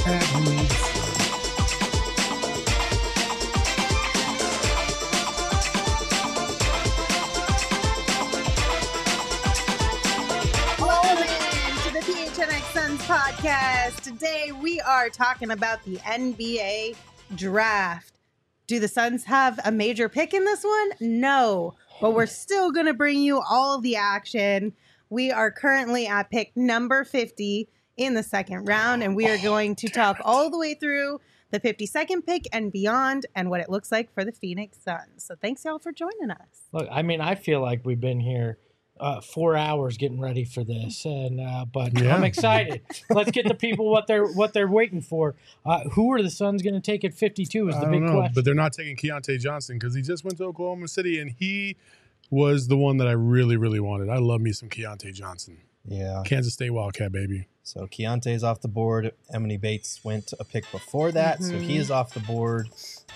Podcast. Today we are talking about the NBA draft. Do the Suns have a major pick in this one? No, but we're still going to bring you all of the action. We are currently at pick number 50 in the second round, and we are going to talk all the way through the 52nd pick and beyond and what it looks like for the Phoenix Suns. So thanks y'all for joining us. Look, I mean, I feel like we've been here 4 hours getting ready for this, and but I'm excited. Let's get the people what they're waiting for. Who are the Suns going to take at 52 is the big question. But they're not taking Keontae Johnson because he just went to Oklahoma City, and he was the one that I really, really wanted. I love me some Keontae Johnson. Yeah. Kansas State Wildcat, baby. So Keontae's off the board. Emily Bates went a pick before that, so he is off the board.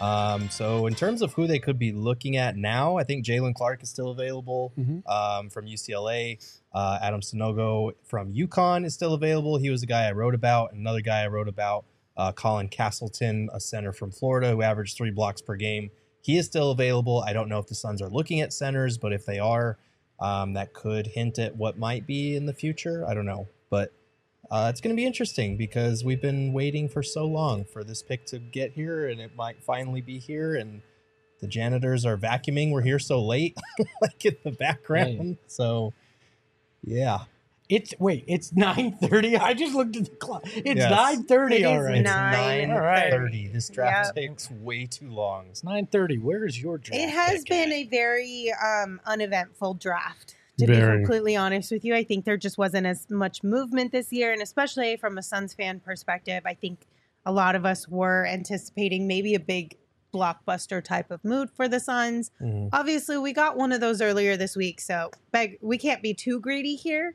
So in terms of who they could be looking at now, I think Jalen Clark is still available from UCLA. Adam Sanogo from UConn is still available. He was the guy I wrote about. Another guy I wrote about, Colin Castleton, a center from Florida who averaged 3 blocks per game. He is still available. I don't know if the Suns are looking at centers, but if they are, that could hint at what might be in the future. I don't know. But it's going to be interesting because we've been waiting for so long for this pick to get here, and it might finally be here. And the janitors are vacuuming. We're here so late, like in the background. Right. So, yeah. It's 9:30. I just looked at the clock. It's Yes. 9:30 It is already. It's 9:30. 9:30. This draft takes way too long. It's 9:30. Where is your draft? It has pick been at? a very uneventful draft. To be Very. completely honest with you, I think there just wasn't as much movement this year, and especially from a Suns fan perspective, I think a lot of us were anticipating maybe a big blockbuster type of mood for the Suns. Obviously, we got one of those earlier this week, so we can't be too greedy here.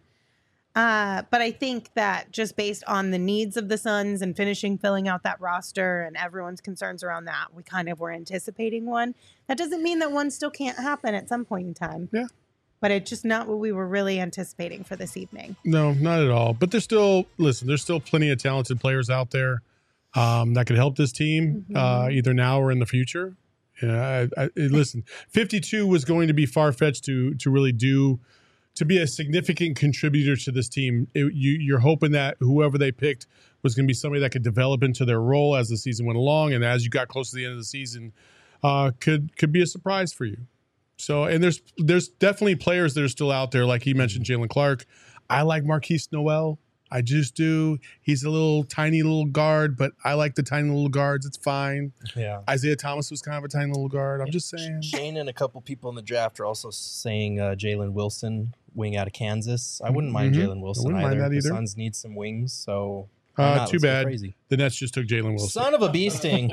But I think that just based on the needs of the Suns and filling out that roster and everyone's concerns around that, we kind of were anticipating one. That doesn't mean that one still can't happen at some point in time. Yeah. But it's just not what we were really anticipating for this evening. No, not at all. But there's still plenty of talented players out there that could help this team either now or in the future. Listen, 52 was going to be far-fetched to really to be a significant contributor to this team. You're hoping that whoever they picked was going to be somebody that could develop into their role as the season went along, and as you got close to the end of the season, could be a surprise for you. So, and there's definitely players that are still out there, like he mentioned, Jalen Clark. I like Marquise Noel. I just do. He's a tiny little guard, but I like the tiny little guards. It's fine. Yeah. Isaiah Thomas was kind of a tiny little guard. I'm just saying. Shane and a couple people in the draft are also saying Jalen Wilson, wing out of Kansas. I wouldn't mind Jalen Wilson wouldn't mind that The either. Suns need some wings, so why not? Too Let's go bad. crazy. The Nets just took Jalen Wilson. Son of a bee sting.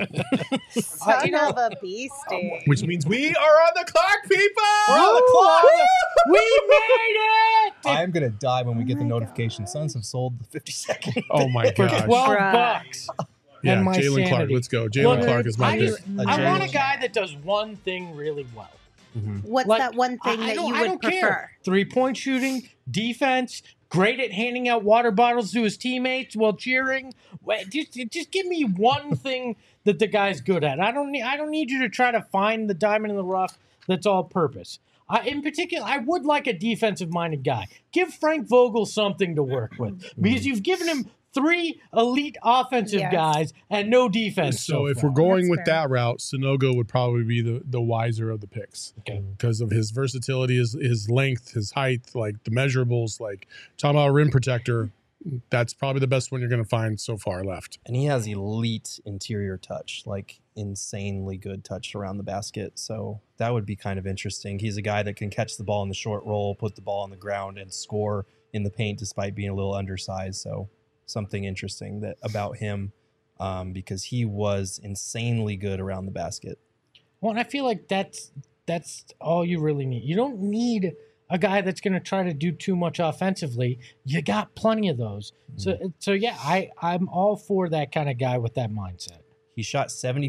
Son of a beastie. Which means we are on the clock, people! We're on the clock. We made it! I'm going to die when we get the notification. Suns have sold the 52nd. Oh my For gosh. $12. Yeah, and my Jalen Clark. sanity. Let's go. Jalen Look, Clark is my I pick. just- I want a guy that does one thing really well. What's Like, that one thing that you I would don't prefer? care. 3-point shooting, defense, great at handing out water bottles to his teammates while cheering. Just give me one thing that the guy's good at. I don't need you to try to find the diamond in the rough that's all purpose. In particular, I would like a defensive-minded guy. Give Frank Vogel something to work with because you've given him 3 elite offensive guys and no defense. So if far. we're going That's with fair. that route, Sanogo would probably be the wiser of the picks. Okay. Because of his versatility, his length, his height, like the measurables, like talking about a rim protector, that's probably the best one you're going to find so far left. And he has elite interior touch, like insanely good touch around the basket. So that would be kind of interesting. He's a guy that can catch the ball in the short roll, put the ball on the ground, and score in the paint despite being a little undersized. So something interesting about him because he was insanely good around the basket. Well, and I feel like that's all you really need. You don't need a guy that's going to try to do too much offensively. You got plenty of those. So yeah, I'm all for that kind of guy with that mindset. He shot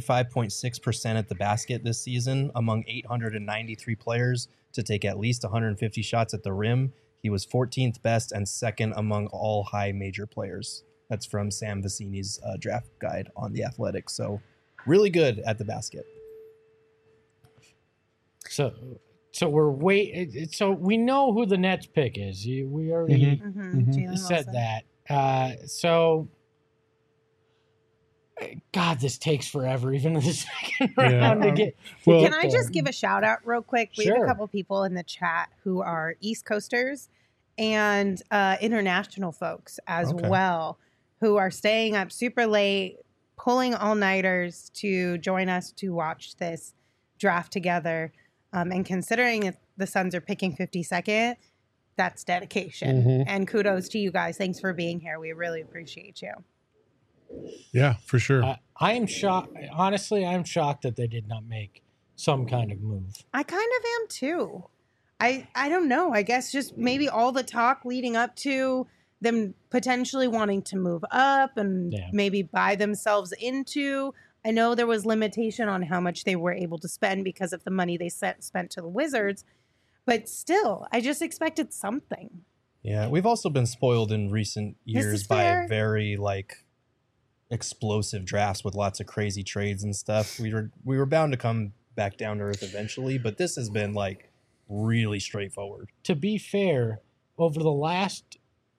75.6% at the basket this season among 893 players to take at least 150 shots at the rim. He was 14th best and second among all high major players. That's from Sam Vecini's draft guide on The Athletic. So really good at the basket. So we're So we know who the Nets pick is. We already Jalen said Wilson. that. So, God, this takes forever, even in the second round to get. Well, Can I just give a shout out real quick? We have Sure. a couple people in the chat who are East Coasters and international folks as Okay. well, who are staying up super late, pulling all-nighters to join us to watch this draft together. And considering that the Suns are picking 52nd, that's dedication. And kudos to you guys. Thanks for being here. We really appreciate you. Yeah, for sure. I am shocked. Honestly, I'm shocked that they did not make some kind of move. I kind of am too. I don't know. I guess just maybe all the talk leading up to them potentially wanting to move up and maybe buy themselves into. I know there was limitation on how much they were able to spend because of the money they spent to the Wizards, but still, I just expected something. Yeah, we've also been spoiled in recent years is by fair. very explosive drafts with lots of crazy trades and stuff. We were bound to come back down to earth eventually, but this has been really straightforward. To be fair, over the last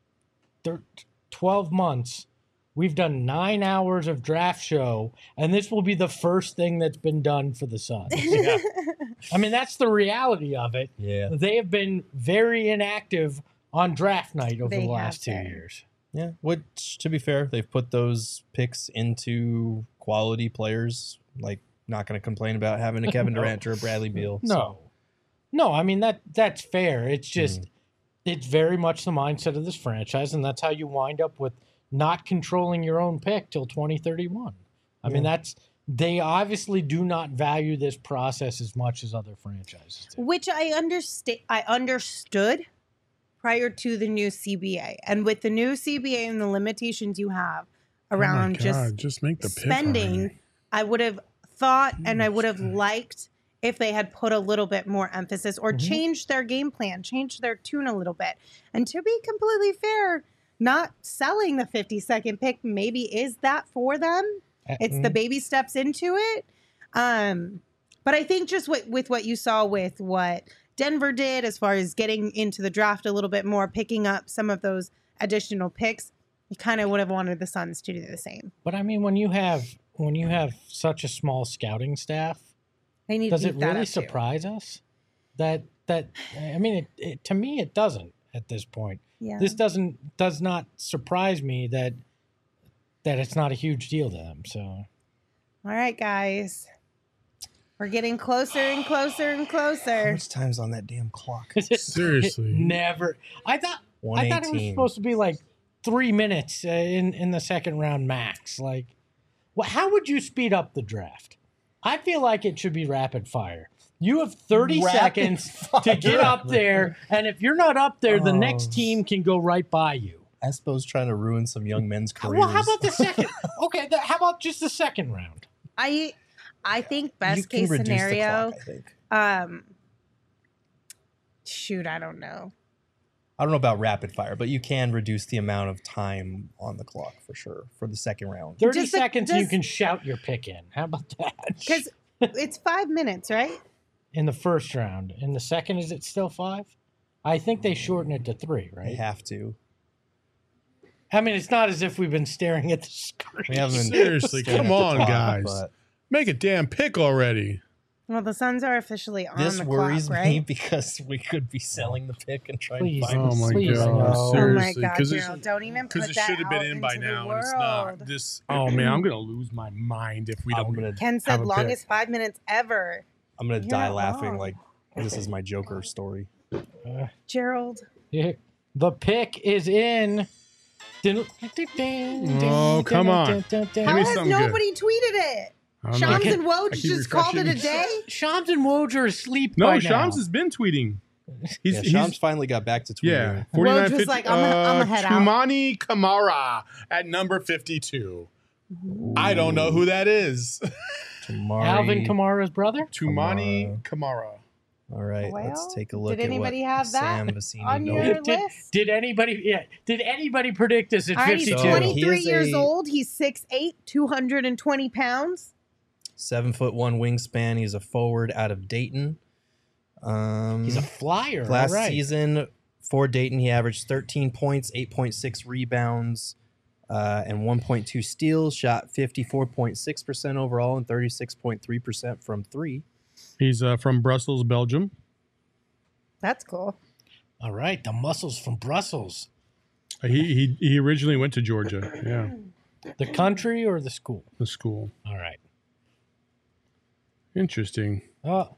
12 months, we've done 9 hours of draft show, and this will be the first thing that's been done for the Suns. Yeah. I mean, that's the reality of it. Yeah. They have been very inactive on draft night over They the last have 2 been. years. Yeah, which, to be fair, they've put those picks into quality players. Not going to complain about having a Kevin Durant or a Bradley Beal. No, I mean, that's fair. It's just, it's very much the mindset of this franchise, and that's how you wind up with not controlling your own pick till 2031. I mean, they obviously do not value this process as much as other franchises do. Which I understood prior to the new CBA. And with the new CBA and the limitations you have around just make the pick spending, already. I would have thought and I would have liked if they had put a little bit more emphasis or changed their game plan, changed their tune a little bit. And to be completely fair, not selling the 52nd pick maybe is that for them. It's the baby steps into it. But I think just with what you saw with what Denver did as far as getting into the draft a little bit more, picking up some of those additional picks, you kind of would have wanted the Suns to do the same. But I mean, when you have such a small scouting staff, They need does to it beef that really up, too. surprise us? That I mean, it to me it doesn't at this point. Yeah. This does not surprise me that it's not a huge deal to them. So, All right, guys. We're getting closer and closer and How closer. much time's on that damn clock? Seriously. never. I thought it was 118. supposed to be 3 minutes in the second round max. How would you speed up the draft? I feel like it should be rapid fire. You have 30 Rapid seconds to get up there, and if you're not up there, the next Oh. team can go right by you. Espo's trying to ruin some young men's careers. Well, how about the second? Okay, how about just the second round? I think You best can case reduce the scenario. clock, I think. Shoot, I don't know. I don't know about rapid fire, but you can reduce the amount of time on the clock for sure for the second round. 30 Just seconds, and you just- can shout your pick in. How about that? Because it's 5 minutes, right? In the first round. In the second, is it still 5? I think they shorten it to 3, They right? have to. I mean, it's not as if we've been staring at the screen. We haven't been Seriously, staring come at the on, clock, guys. but Make a damn pick already. Well, the Suns are officially on This the worries clock, me right? because we could be selling the pick and trying Please. to find Oh my Please, god! no. Oh my Seriously, God, because Gerald, don't even put it that should have been out in by into the now, and it's not. world. This. Oh man, I'm gonna lose my mind if we I'm don't. gonna Ken have said a longest pick. 5 minutes ever. I'm gonna You're die not laughing wrong. like this is my Joker story. Gerald. The pick is in. Oh, come on. How me has something nobody tweeted it? I don't know. Shams and I Woj keep just called it a refreshing. day? Shams and Woj are asleep No, by Shams now. has been tweeting. Yeah, Shams finally got back to tweeting. Yeah, Woj 49.50. was like, I'm gonna head out. Tumani Kamara at number 52. I don't know who that is. Tamari, Alvin Kamara's brother? Tumani Kamara. All right, Well, let's take a look did at anybody what have that Sam Vecini on your noted. list? Did anybody predict this at All right, he's 52? So, 23 he is years a- old. He's 6'8", 220 pounds. 7'1" wingspan. He's a forward out of Dayton. He's a flyer. Last all right. season for Dayton, he averaged 13 points, 8.6 rebounds, and 1.2 steals. Shot 54.6% overall and 36.3% from three. He's from Brussels, Belgium. That's cool. All right, the muscles from Brussels. He originally went to Georgia. Yeah, The country or the school? the school. All right. Interesting. Oh,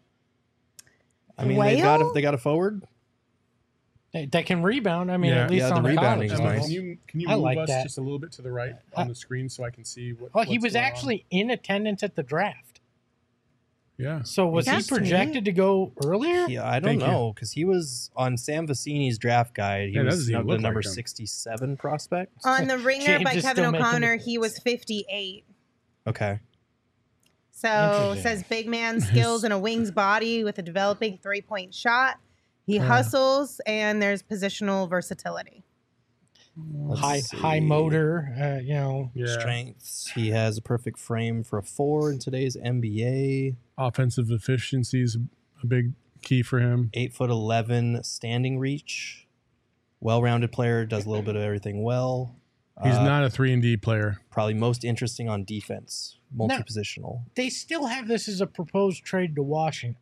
I mean, Whale? they got a forward. they can rebound. I mean, Yeah. at least Yeah, on the the rebounding college is level. nice. Can you I move like us that. just a little bit to the right on the screen so I can see what? Oh, he what's was going on? actually in attendance at the draft. Yeah. So was he That's projected to go earlier? Yeah, I don't Thank you. know because he was on Sam Vecini's draft guide. He Yeah, that was doesn't even the look number like him. 67 prospect. On the Ringer James by is Kevin still making O'Connor, the he was 58. Okay. So Interesting. says big man skills and a wing's body with a developing 3-point shot. He hustles and there's positional versatility. Let's high see. motor. Yeah. Strengths. He has a perfect frame for a 4 in today's NBA. Offensive efficiency is a big key for him. 8'11" standing reach. Well-rounded player, does a little bit of everything well. He's not a 3-and-D player. Probably most interesting on defense, multi-positional. They still have this as a proposed trade to Washington.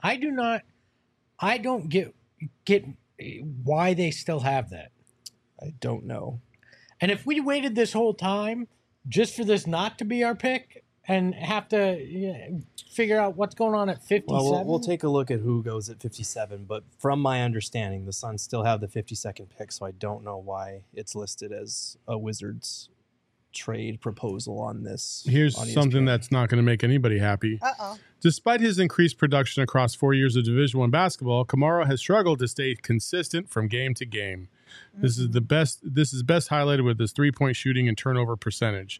I don't get why they still have that. I don't know. And if we waited this whole time just for this not to be our pick and have to figure out what's going on at 57, Well, we'll take a look at who goes at 57, but from my understanding, the Suns still have the 52nd pick, so I don't know why it's listed as a Wizards trade proposal on this. Here's on something ESPN. that's not going to make anybody happy. Uh-oh. Despite his increased production across 4 years of Division I basketball, Kamara has struggled to stay consistent from game to game. This is best highlighted with his 3-point shooting and turnover percentage.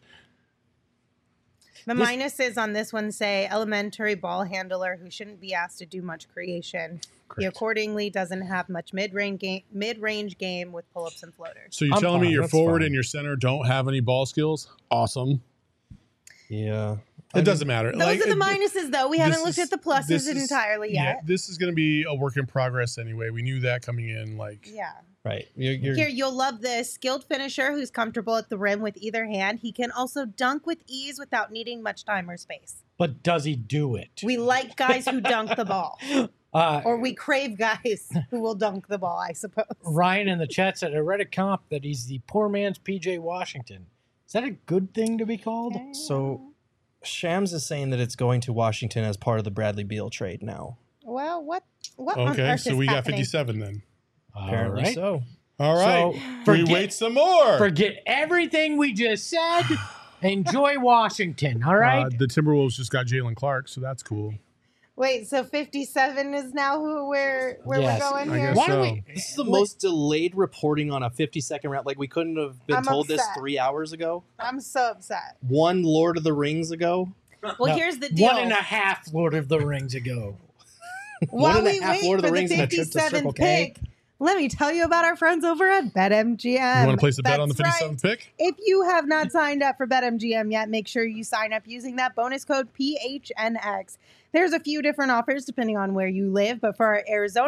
The minuses on this one say elementary ball handler who shouldn't be asked to do much creation. He Correct. accordingly doesn't have much mid-range game with pull-ups and floaters. So you're I'm telling me fine, your that's forward fine. and your center don't have any ball skills? Awesome. Yeah. It doesn't matter. Those are the minuses, though. We haven't looked at the pluses this is- entirely Yeah, yet. this is going to be a work in progress anyway. We knew that coming in. Yeah. Right. You're Here, you'll love this. Skilled finisher who's comfortable at the rim with either hand. He can also dunk with ease without needing much time or space. but does he do it? We like guys who dunk the ball. Or we crave guys who will dunk the ball, I suppose. Ryan in the chat said, I read a comp that he's the poor man's PJ Washington. Is that a good thing to be called? So Shams is saying that it's going to Washington as part of the Bradley Beal trade now. Well, what on Okay, earth so is we got happening? 57 then. Apparently All right. so. All right. So, we wait some more. Forget everything we just said. Enjoy Washington, all right? The Timberwolves just got Jalen Clark, so that's cool. Wait, so 57 is now where Yes, we're going I here? guess Why so. don't we? This is the most delayed reporting on a 52nd round. Like we couldn't have been I'm told this upset. 3 hours ago. I'm so upset. One Lord of the Rings ago. Well, No, here's the deal. 1.5 Lord of the Rings ago. While One and a we half wait Lord of for the the Rings and a trip to Circle 57th K. pick, let me tell you about our friends over at BetMGM. You want to place a bet on the That's 57th right. pick? If you have not signed up for BetMGM yet, make sure you sign up using that bonus code PHNX. There's a few different offers depending on where you live, but for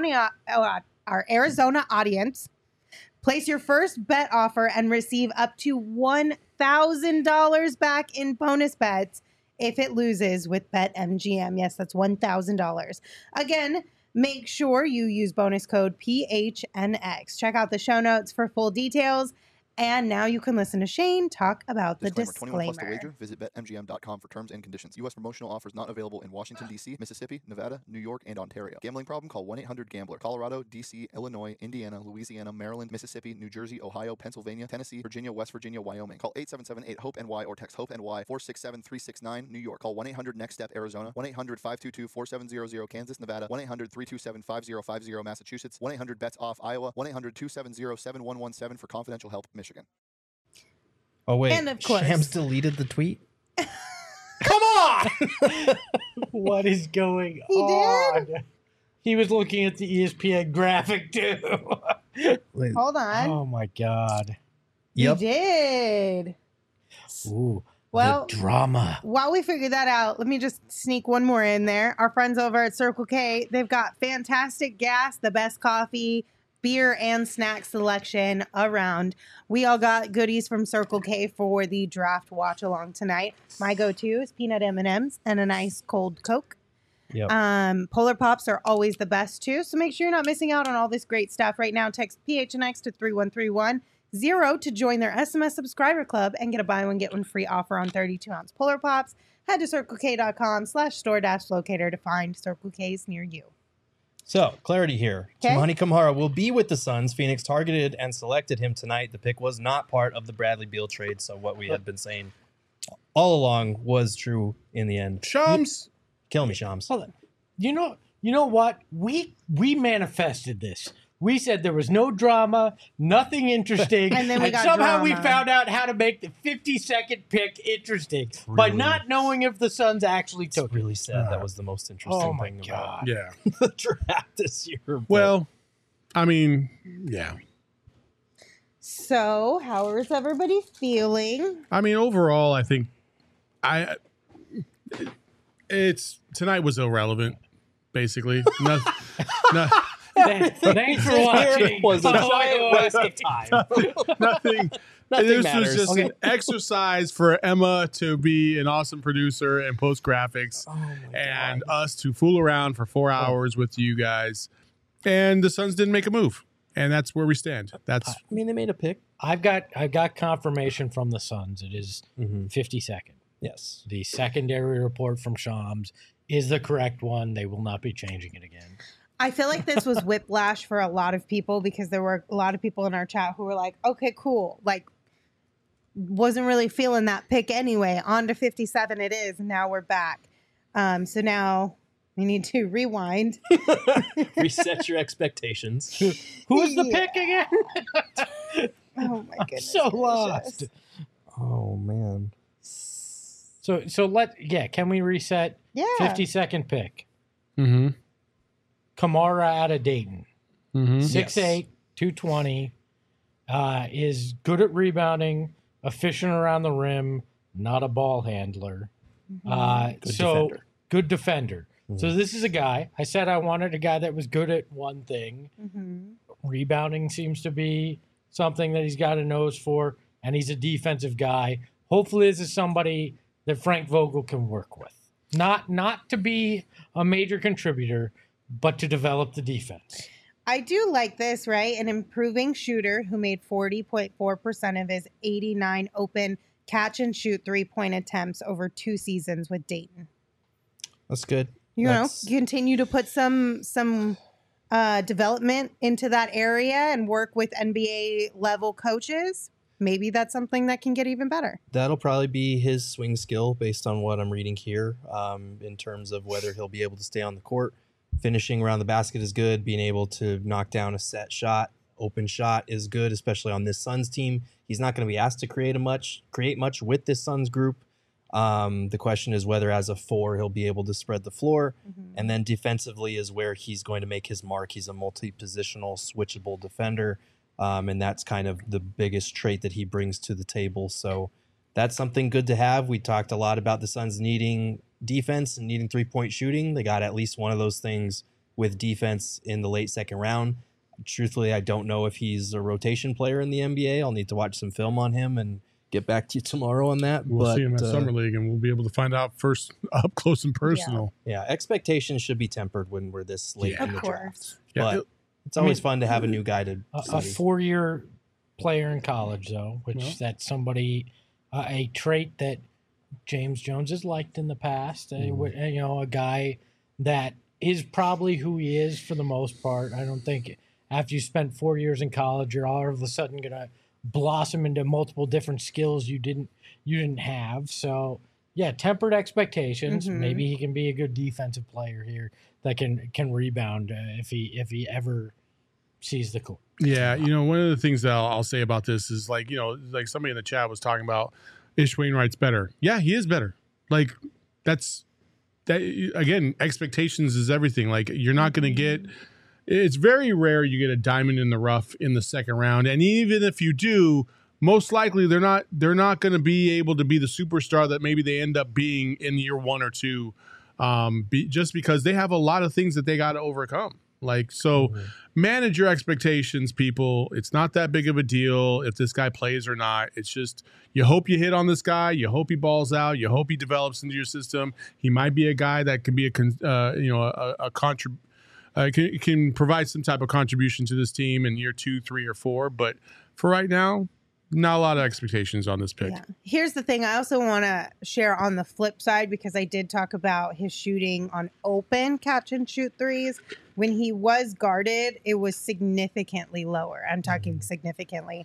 our Arizona audience, place your first bet offer and receive up to $1,000 back in bonus bets if it loses with BetMGM. Yes, that's $1,000. Again, make sure you use bonus code PHNX. Check out the show notes for full details. And now you can listen to Shane talk about the 21 disclaimer. plus to wager. Visit BetMGM.com for terms and conditions. U.S. promotional offers not available in Washington, D.C., Mississippi, Nevada, New York, and Ontario. Gambling problem? Call 1-800-GAMBLER. Colorado, D.C., Illinois, Indiana, Louisiana, Maryland, Mississippi, New Jersey, Ohio, Pennsylvania, Tennessee, Virginia, West Virginia, Wyoming. Call 877-8-HOPE-NY or text HOPE-NY 467-369. New York. Call 1-800-NEXT-STEP, Arizona. 1-800-522-4700, Kansas, Nevada. 1-800-327-5050, Massachusetts. 1-800-BETS-OFF, Iowa. 1-800-270-7117 for confidential help, Michigan. Oh wait, And of course- Shams deleted the tweet. Come on! What is going He on? did? He was looking at the ESPN graphic too. Hold on. Oh my God. You Yep. did. Ooh. Well, the drama. while we figure that out, let me just sneak one more in there. Our friends over at Circle K, they've got fantastic gas, the best coffee, beer, and snack selection around. We all got goodies from Circle K for the draft watch along tonight. My go-to is peanut M&Ms and a nice cold Coke. Yep. Polar Pops are always the best too, so make sure you're not missing out on all this great stuff right now. Text PHNX to 3131. 0 to join their SMS subscriber club and get a buy one, get one free offer on 32-ounce Polar Pops. Head to circlek.com/store-locator to find Circle K's near you. So, clarity here. Okay. Tamani Kamara will be with the Suns. Phoenix targeted and selected him tonight. The pick was not part of the Bradley Beal trade, so what we had been saying all along was true in the end. Shams. Kill me, Shams. Hold on. You know what? We manifested this. We said there was no drama, nothing interesting, And then we got somehow we drama. found out how to make the 52nd pick interesting by Really? not knowing if the Suns actually It's took it. really sad. That was the most interesting Oh my thing God. Yeah. about the draft this year. but- Well, I mean, yeah. So, how is everybody feeling? I mean, overall, I think it's tonight was irrelevant. Basically, no, Thanks for watching. was a Oh, giant waste of time. nothing. Nothing This matters. was just Okay. an exercise for Emma to be an awesome producer and post graphics, Oh my and God. us to fool around for 4 hours with you guys. And the Suns didn't make a move, and that's where we stand. That's I mean, they made a pick. I've got confirmation from the Suns. It is 52nd. Yes. The secondary report from Shams is the correct one. They will not be changing it again. I feel like this was whiplash for a lot of people because there were a lot of people in our chat who were like, okay, cool. Like, wasn't really feeling that pick anyway. On to 57 it is. And now we're back. So now we need to rewind. Reset your expectations. Who is the Yeah. pick again? Oh my goodness. So gracious. lost. Oh man. So can we reset? Yeah. 52nd pick. mm-hmm, Kamara out of Dayton. mm-hmm. 6'8", 220. Is good at rebounding, efficient around the rim, not a ball handler. Mm-hmm. Good defender. So this is a guy. I said I wanted a guy that was good at one thing. Mm-hmm. Rebounding seems to be something that he's got a nose for, and he's a defensive guy. Hopefully this is somebody that Frank Vogel can work with. Not to be a major contributor, but to develop the defense. I do like this, right? An improving shooter who made 40.4% of his 89 open catch and shoot 3-point attempts over 2 seasons with Dayton. That's good. You That's- know, continue to put some development into that area and work with NBA level coaches. Maybe that's something that can get even better. That'll probably be his swing skill based on what I'm reading here, in terms of whether he'll be able to stay on the court. Finishing around the basket is good. Being able to knock down a set shot, open shot is good, especially on this Suns team. He's not going to be asked to create much with this Suns group. The question is whether as a 4 he'll be able to spread the floor. And then defensively is where he's going to make his mark. He's a multi-positional, switchable defender. And that's kind of the biggest trait that he brings to the table. So that's something good to have. We talked a lot about the Suns needing defense and needing 3-point shooting. They got at least one of those things with defense in the late second round. Truthfully, I don't know if he's a rotation player in the NBA. I'll need to watch some film on him and get back to you tomorrow on that. We'll but, see him at Summer League, and we'll be able to find out first up close and personal. Yeah, expectations should be tempered when we're this late Yeah. in the Of draft. course. Yeah, But it's always fun to have a new guy to A study. 4-year player in college, though, which Well. that's somebody, a trait that James Jones has liked in the past. A guy that is probably who he is for the most part. I don't think after you spent 4 years in college, you're all of a sudden going to blossom into multiple different skills you didn't have. So yeah, tempered expectations. Mhm. Maybe he can be a good defensive player here that can rebound if he ever sees the court. Yeah, one of the things that I'll say about this is like somebody in the chat was talking about Ish Wainwright's better. Yeah, he is better. Like that's that again, expectations is everything. Like you're not going to get. It's very rare you get a diamond in the rough in the second round, and even if you do, most likely they're not going to be able to be the superstar that maybe they end up being in year 1 or 2, just because they have a lot of things that they got to overcome. Like, so manage your expectations, people. It's not that big of a deal if this guy plays or not. It's just you hope you hit on this guy. You hope he balls out. You hope he develops into your system. He might be a guy that can be can provide some type of contribution to this team in year 2, 3, or 4. But for right now, not a lot of expectations on this pick. Yeah. Here's the thing. I also want to share on the flip side, because I did talk about his shooting on open catch and shoot threes. When he was guarded, it was significantly lower. I'm talking significantly,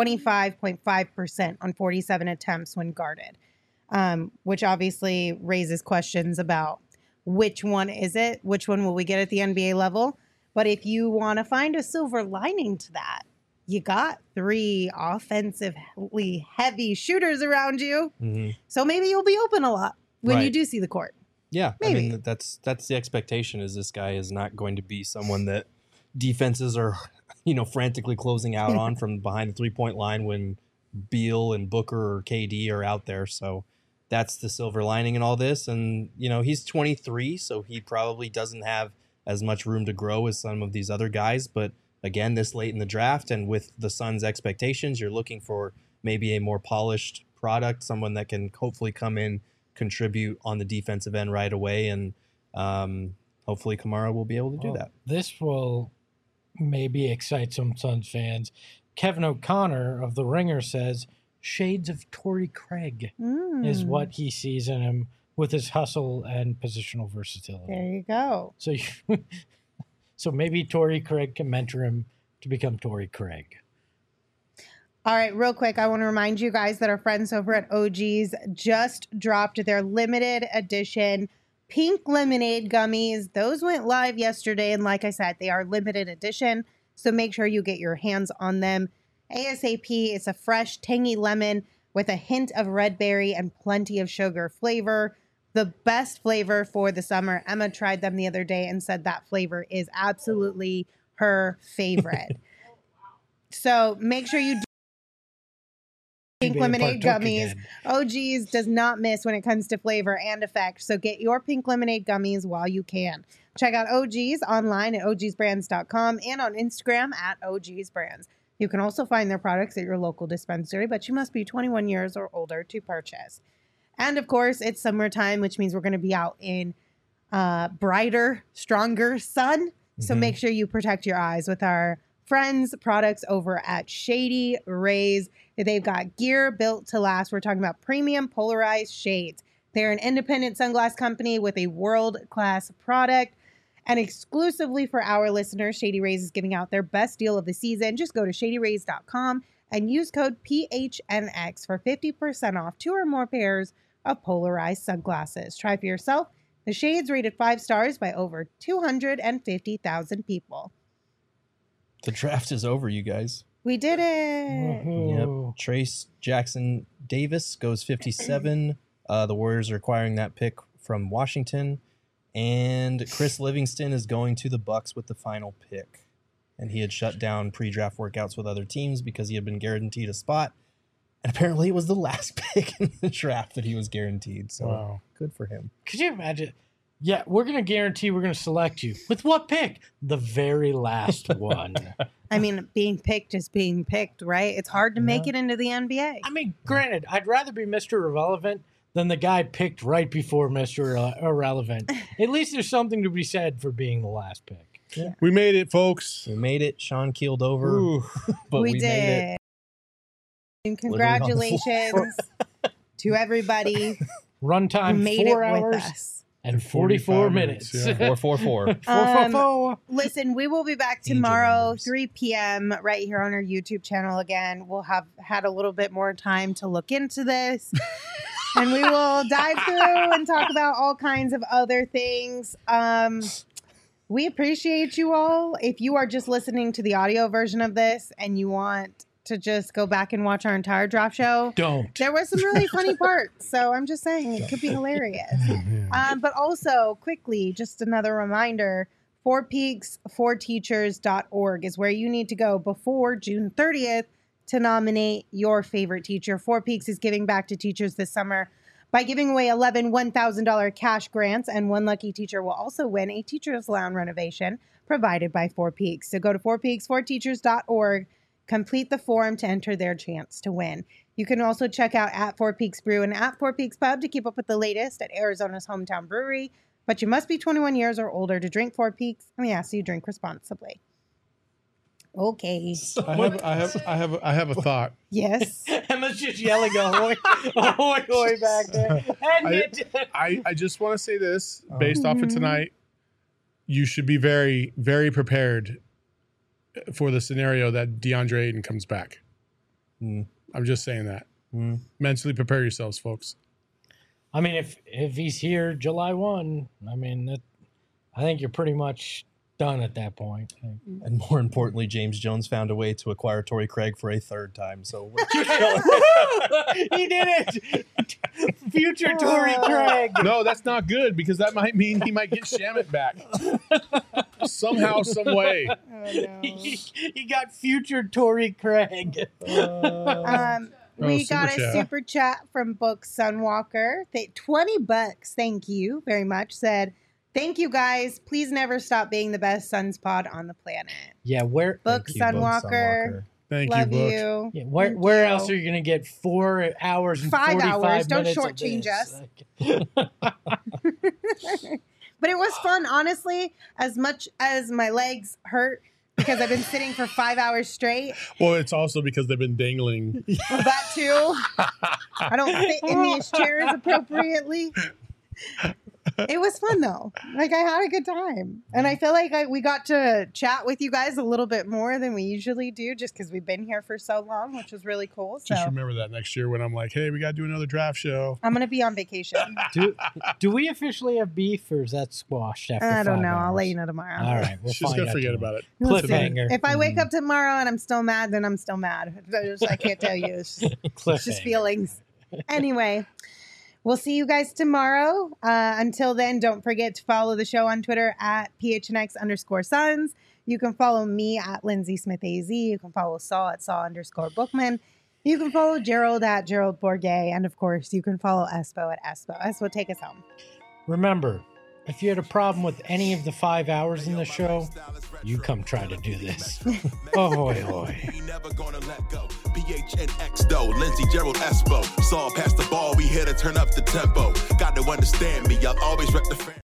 25.5% on 47 attempts when guarded, which obviously raises questions about which one is it? Which one will we get at the NBA level? But if you want to find a silver lining to that, you got 3 offensively heavy shooters around you. So maybe you'll be open a lot when you do see the court. Yeah, maybe. I mean, that's the expectation, is this guy is not going to be someone that defenses are, frantically closing out on from behind the 3-point line when Beal and Booker or KD are out there. So that's the silver lining in all this. And, he's 23, so he probably doesn't have as much room to grow as some of these other guys. But again, this late in the draft and with the Suns' expectations, you're looking for maybe a more polished product, someone that can hopefully come in, contribute on the defensive end right away, and hopefully Kamara will be able to do that. This will maybe excite some Suns fans. Kevin O'Connor of The Ringer says shades of Torrey Craig is what he sees in him with his hustle and positional versatility. There you go. So maybe Torrey Craig can mentor him to become Torrey Craig. All right, real quick, I want to remind you guys that our friends over at OG's just dropped their limited edition pink lemonade gummies. Those went live yesterday, and like I said, they are limited edition, so make sure you get your hands on them ASAP. It's a fresh, tangy lemon with a hint of red berry and plenty of sugar flavor. The best flavor for the summer. Emma tried them the other day and said that flavor is absolutely her favorite. So make sure you do pink lemonade gummies. Again. OG's does not miss when it comes to flavor and effect. So get your pink lemonade gummies while you can. Check out OG's online at ogsbrands.com and on Instagram at ogsbrands. You can also find their products at your local dispensary, but you must be 21 years or older to purchase. And of course, it's summertime, which means we're going to be out in brighter, stronger sun. So make sure you protect your eyes with our friends' products over at Shady Rays. They've got gear built to last. We're talking about premium polarized shades. They're an independent sunglass company with a world-class product. And exclusively for our listeners, Shady Rays is giving out their best deal of the season. Just go to shadyrays.com and use code PHNX for 50% off 2 or more pairs of polarized sunglasses. Try for yourself. The shades rated 5 stars by over 250,000 people. The draft is over, you guys. We did it. Yep. Trace Jackson Davis goes 57. The Warriors are acquiring that pick from Washington. And Chris Livingston is going to the Bucks with the final pick. And he had shut down pre-draft workouts with other teams because he had been guaranteed a spot. And apparently it was the last pick in the draft that he was guaranteed. So Good for him. Could you imagine? Yeah, we're going to guarantee we're going to select you. With what pick? The very last one. I mean, being picked is being picked, right? It's hard to make it into the NBA. I mean, granted, I'd rather be Mr. Irrelevant than the guy picked right before Mr. Irrelevant. At least there's something to be said for being the last pick. Yeah. We made it, folks. We made it. Sean keeled over. But we did. Made it. And congratulations to everybody. Runtime made 4 it hours with us. And 44 minutes. Yeah. 444. Listen, we will be back tomorrow, 3 p.m. right here on our YouTube channel again. We'll have had a little bit more time to look into this. And we will dive through and talk about all kinds of other things. We appreciate you all. If you are just listening to the audio version of this and you want to just go back and watch our entire draft show. Don't. There was some really funny parts, so I'm just saying it could be hilarious. But also, quickly, just another reminder, 4peaks4teachers.org is where you need to go before June 30th to nominate your favorite teacher. 4 Peaks is giving back to teachers this summer by giving away 11 $1,000 cash grants, and one lucky teacher will also win a teacher's lounge renovation provided by 4 Peaks. So go to 4peaks4teachers.org, complete the form to enter their chance to win. You can also check out at 4 Peaks Brew and at 4 Peaks Pub to keep up with the latest at Arizona's hometown brewery, but you must be 21 years or older to drink 4 Peaks, and we ask you to drink responsibly. Okay. I have a thought. Yes. Emma's just yelling ahoy, ahoy, ahoy back there. I just want to say this, based off of tonight, you should be very, very prepared for the scenario that DeAndre Ayton comes back. I'm just saying that. Mentally prepare yourselves, folks. I mean, if he's here July 1, I mean, I think you're pretty much done at that point. And more importantly, James Jones found a way to acquire Torrey Craig for a third time. So we're he did it. Future Torrey Craig. No, that's not good because that might mean he might get Shamet back somehow, some way. Oh, no. He got future Torrey Craig. We got super a chat. super chat from Book Sunwalker. $20. Thank you very much. Said, thank you guys. Please never stop being the best Suns pod on the planet. Yeah, where Book Sunwalker. Thank Love you, Book. you. Yeah, Thank where you. else are you going to get 4 hours and 5 45 hours. Don't minutes of shortchange this? us. But it was fun, honestly, as much as my legs hurt because I've been sitting for 5 hours straight. Well, it's also because they've been dangling. Well, that too. I don't fit in these chairs appropriately. It was fun though. Like I had a good time, and I feel like we got to chat with you guys a little bit more than we usually do, just because we've been here for so long, which was really cool. So Just remember that next year when I'm like, hey, we got to do another draft show. I'm gonna be on vacation. Do we officially have beef or is that squashed after I don't 5 know. hours? I'll let you know tomorrow. All right, we'll She's find going to out forget tomorrow. about it. Listen, Cliffhanger. if I wake up tomorrow and I'm still mad, then I'm still mad. I can't tell you. It's just Cliffhanger. feelings. Anyway, we'll see you guys tomorrow. Until then, don't forget to follow the show on Twitter at PHNX_Suns. You can follow me at Lindsay Smith AZ. You can follow Saul at Saul_Bookman. You can follow Gerald at Gerald Bourget. And of course, you can follow Espo at Espo. Espo, take us home. Remember, if you had a problem with any of the 5 hours in the show, you come try to do this. Ahoy, hoy. We never gonna let go. PHNX though, Lindsey, Gerald, Espo. Saw past the ball, we here to turn up the tempo. Got to understand me, I'll always rep the fan.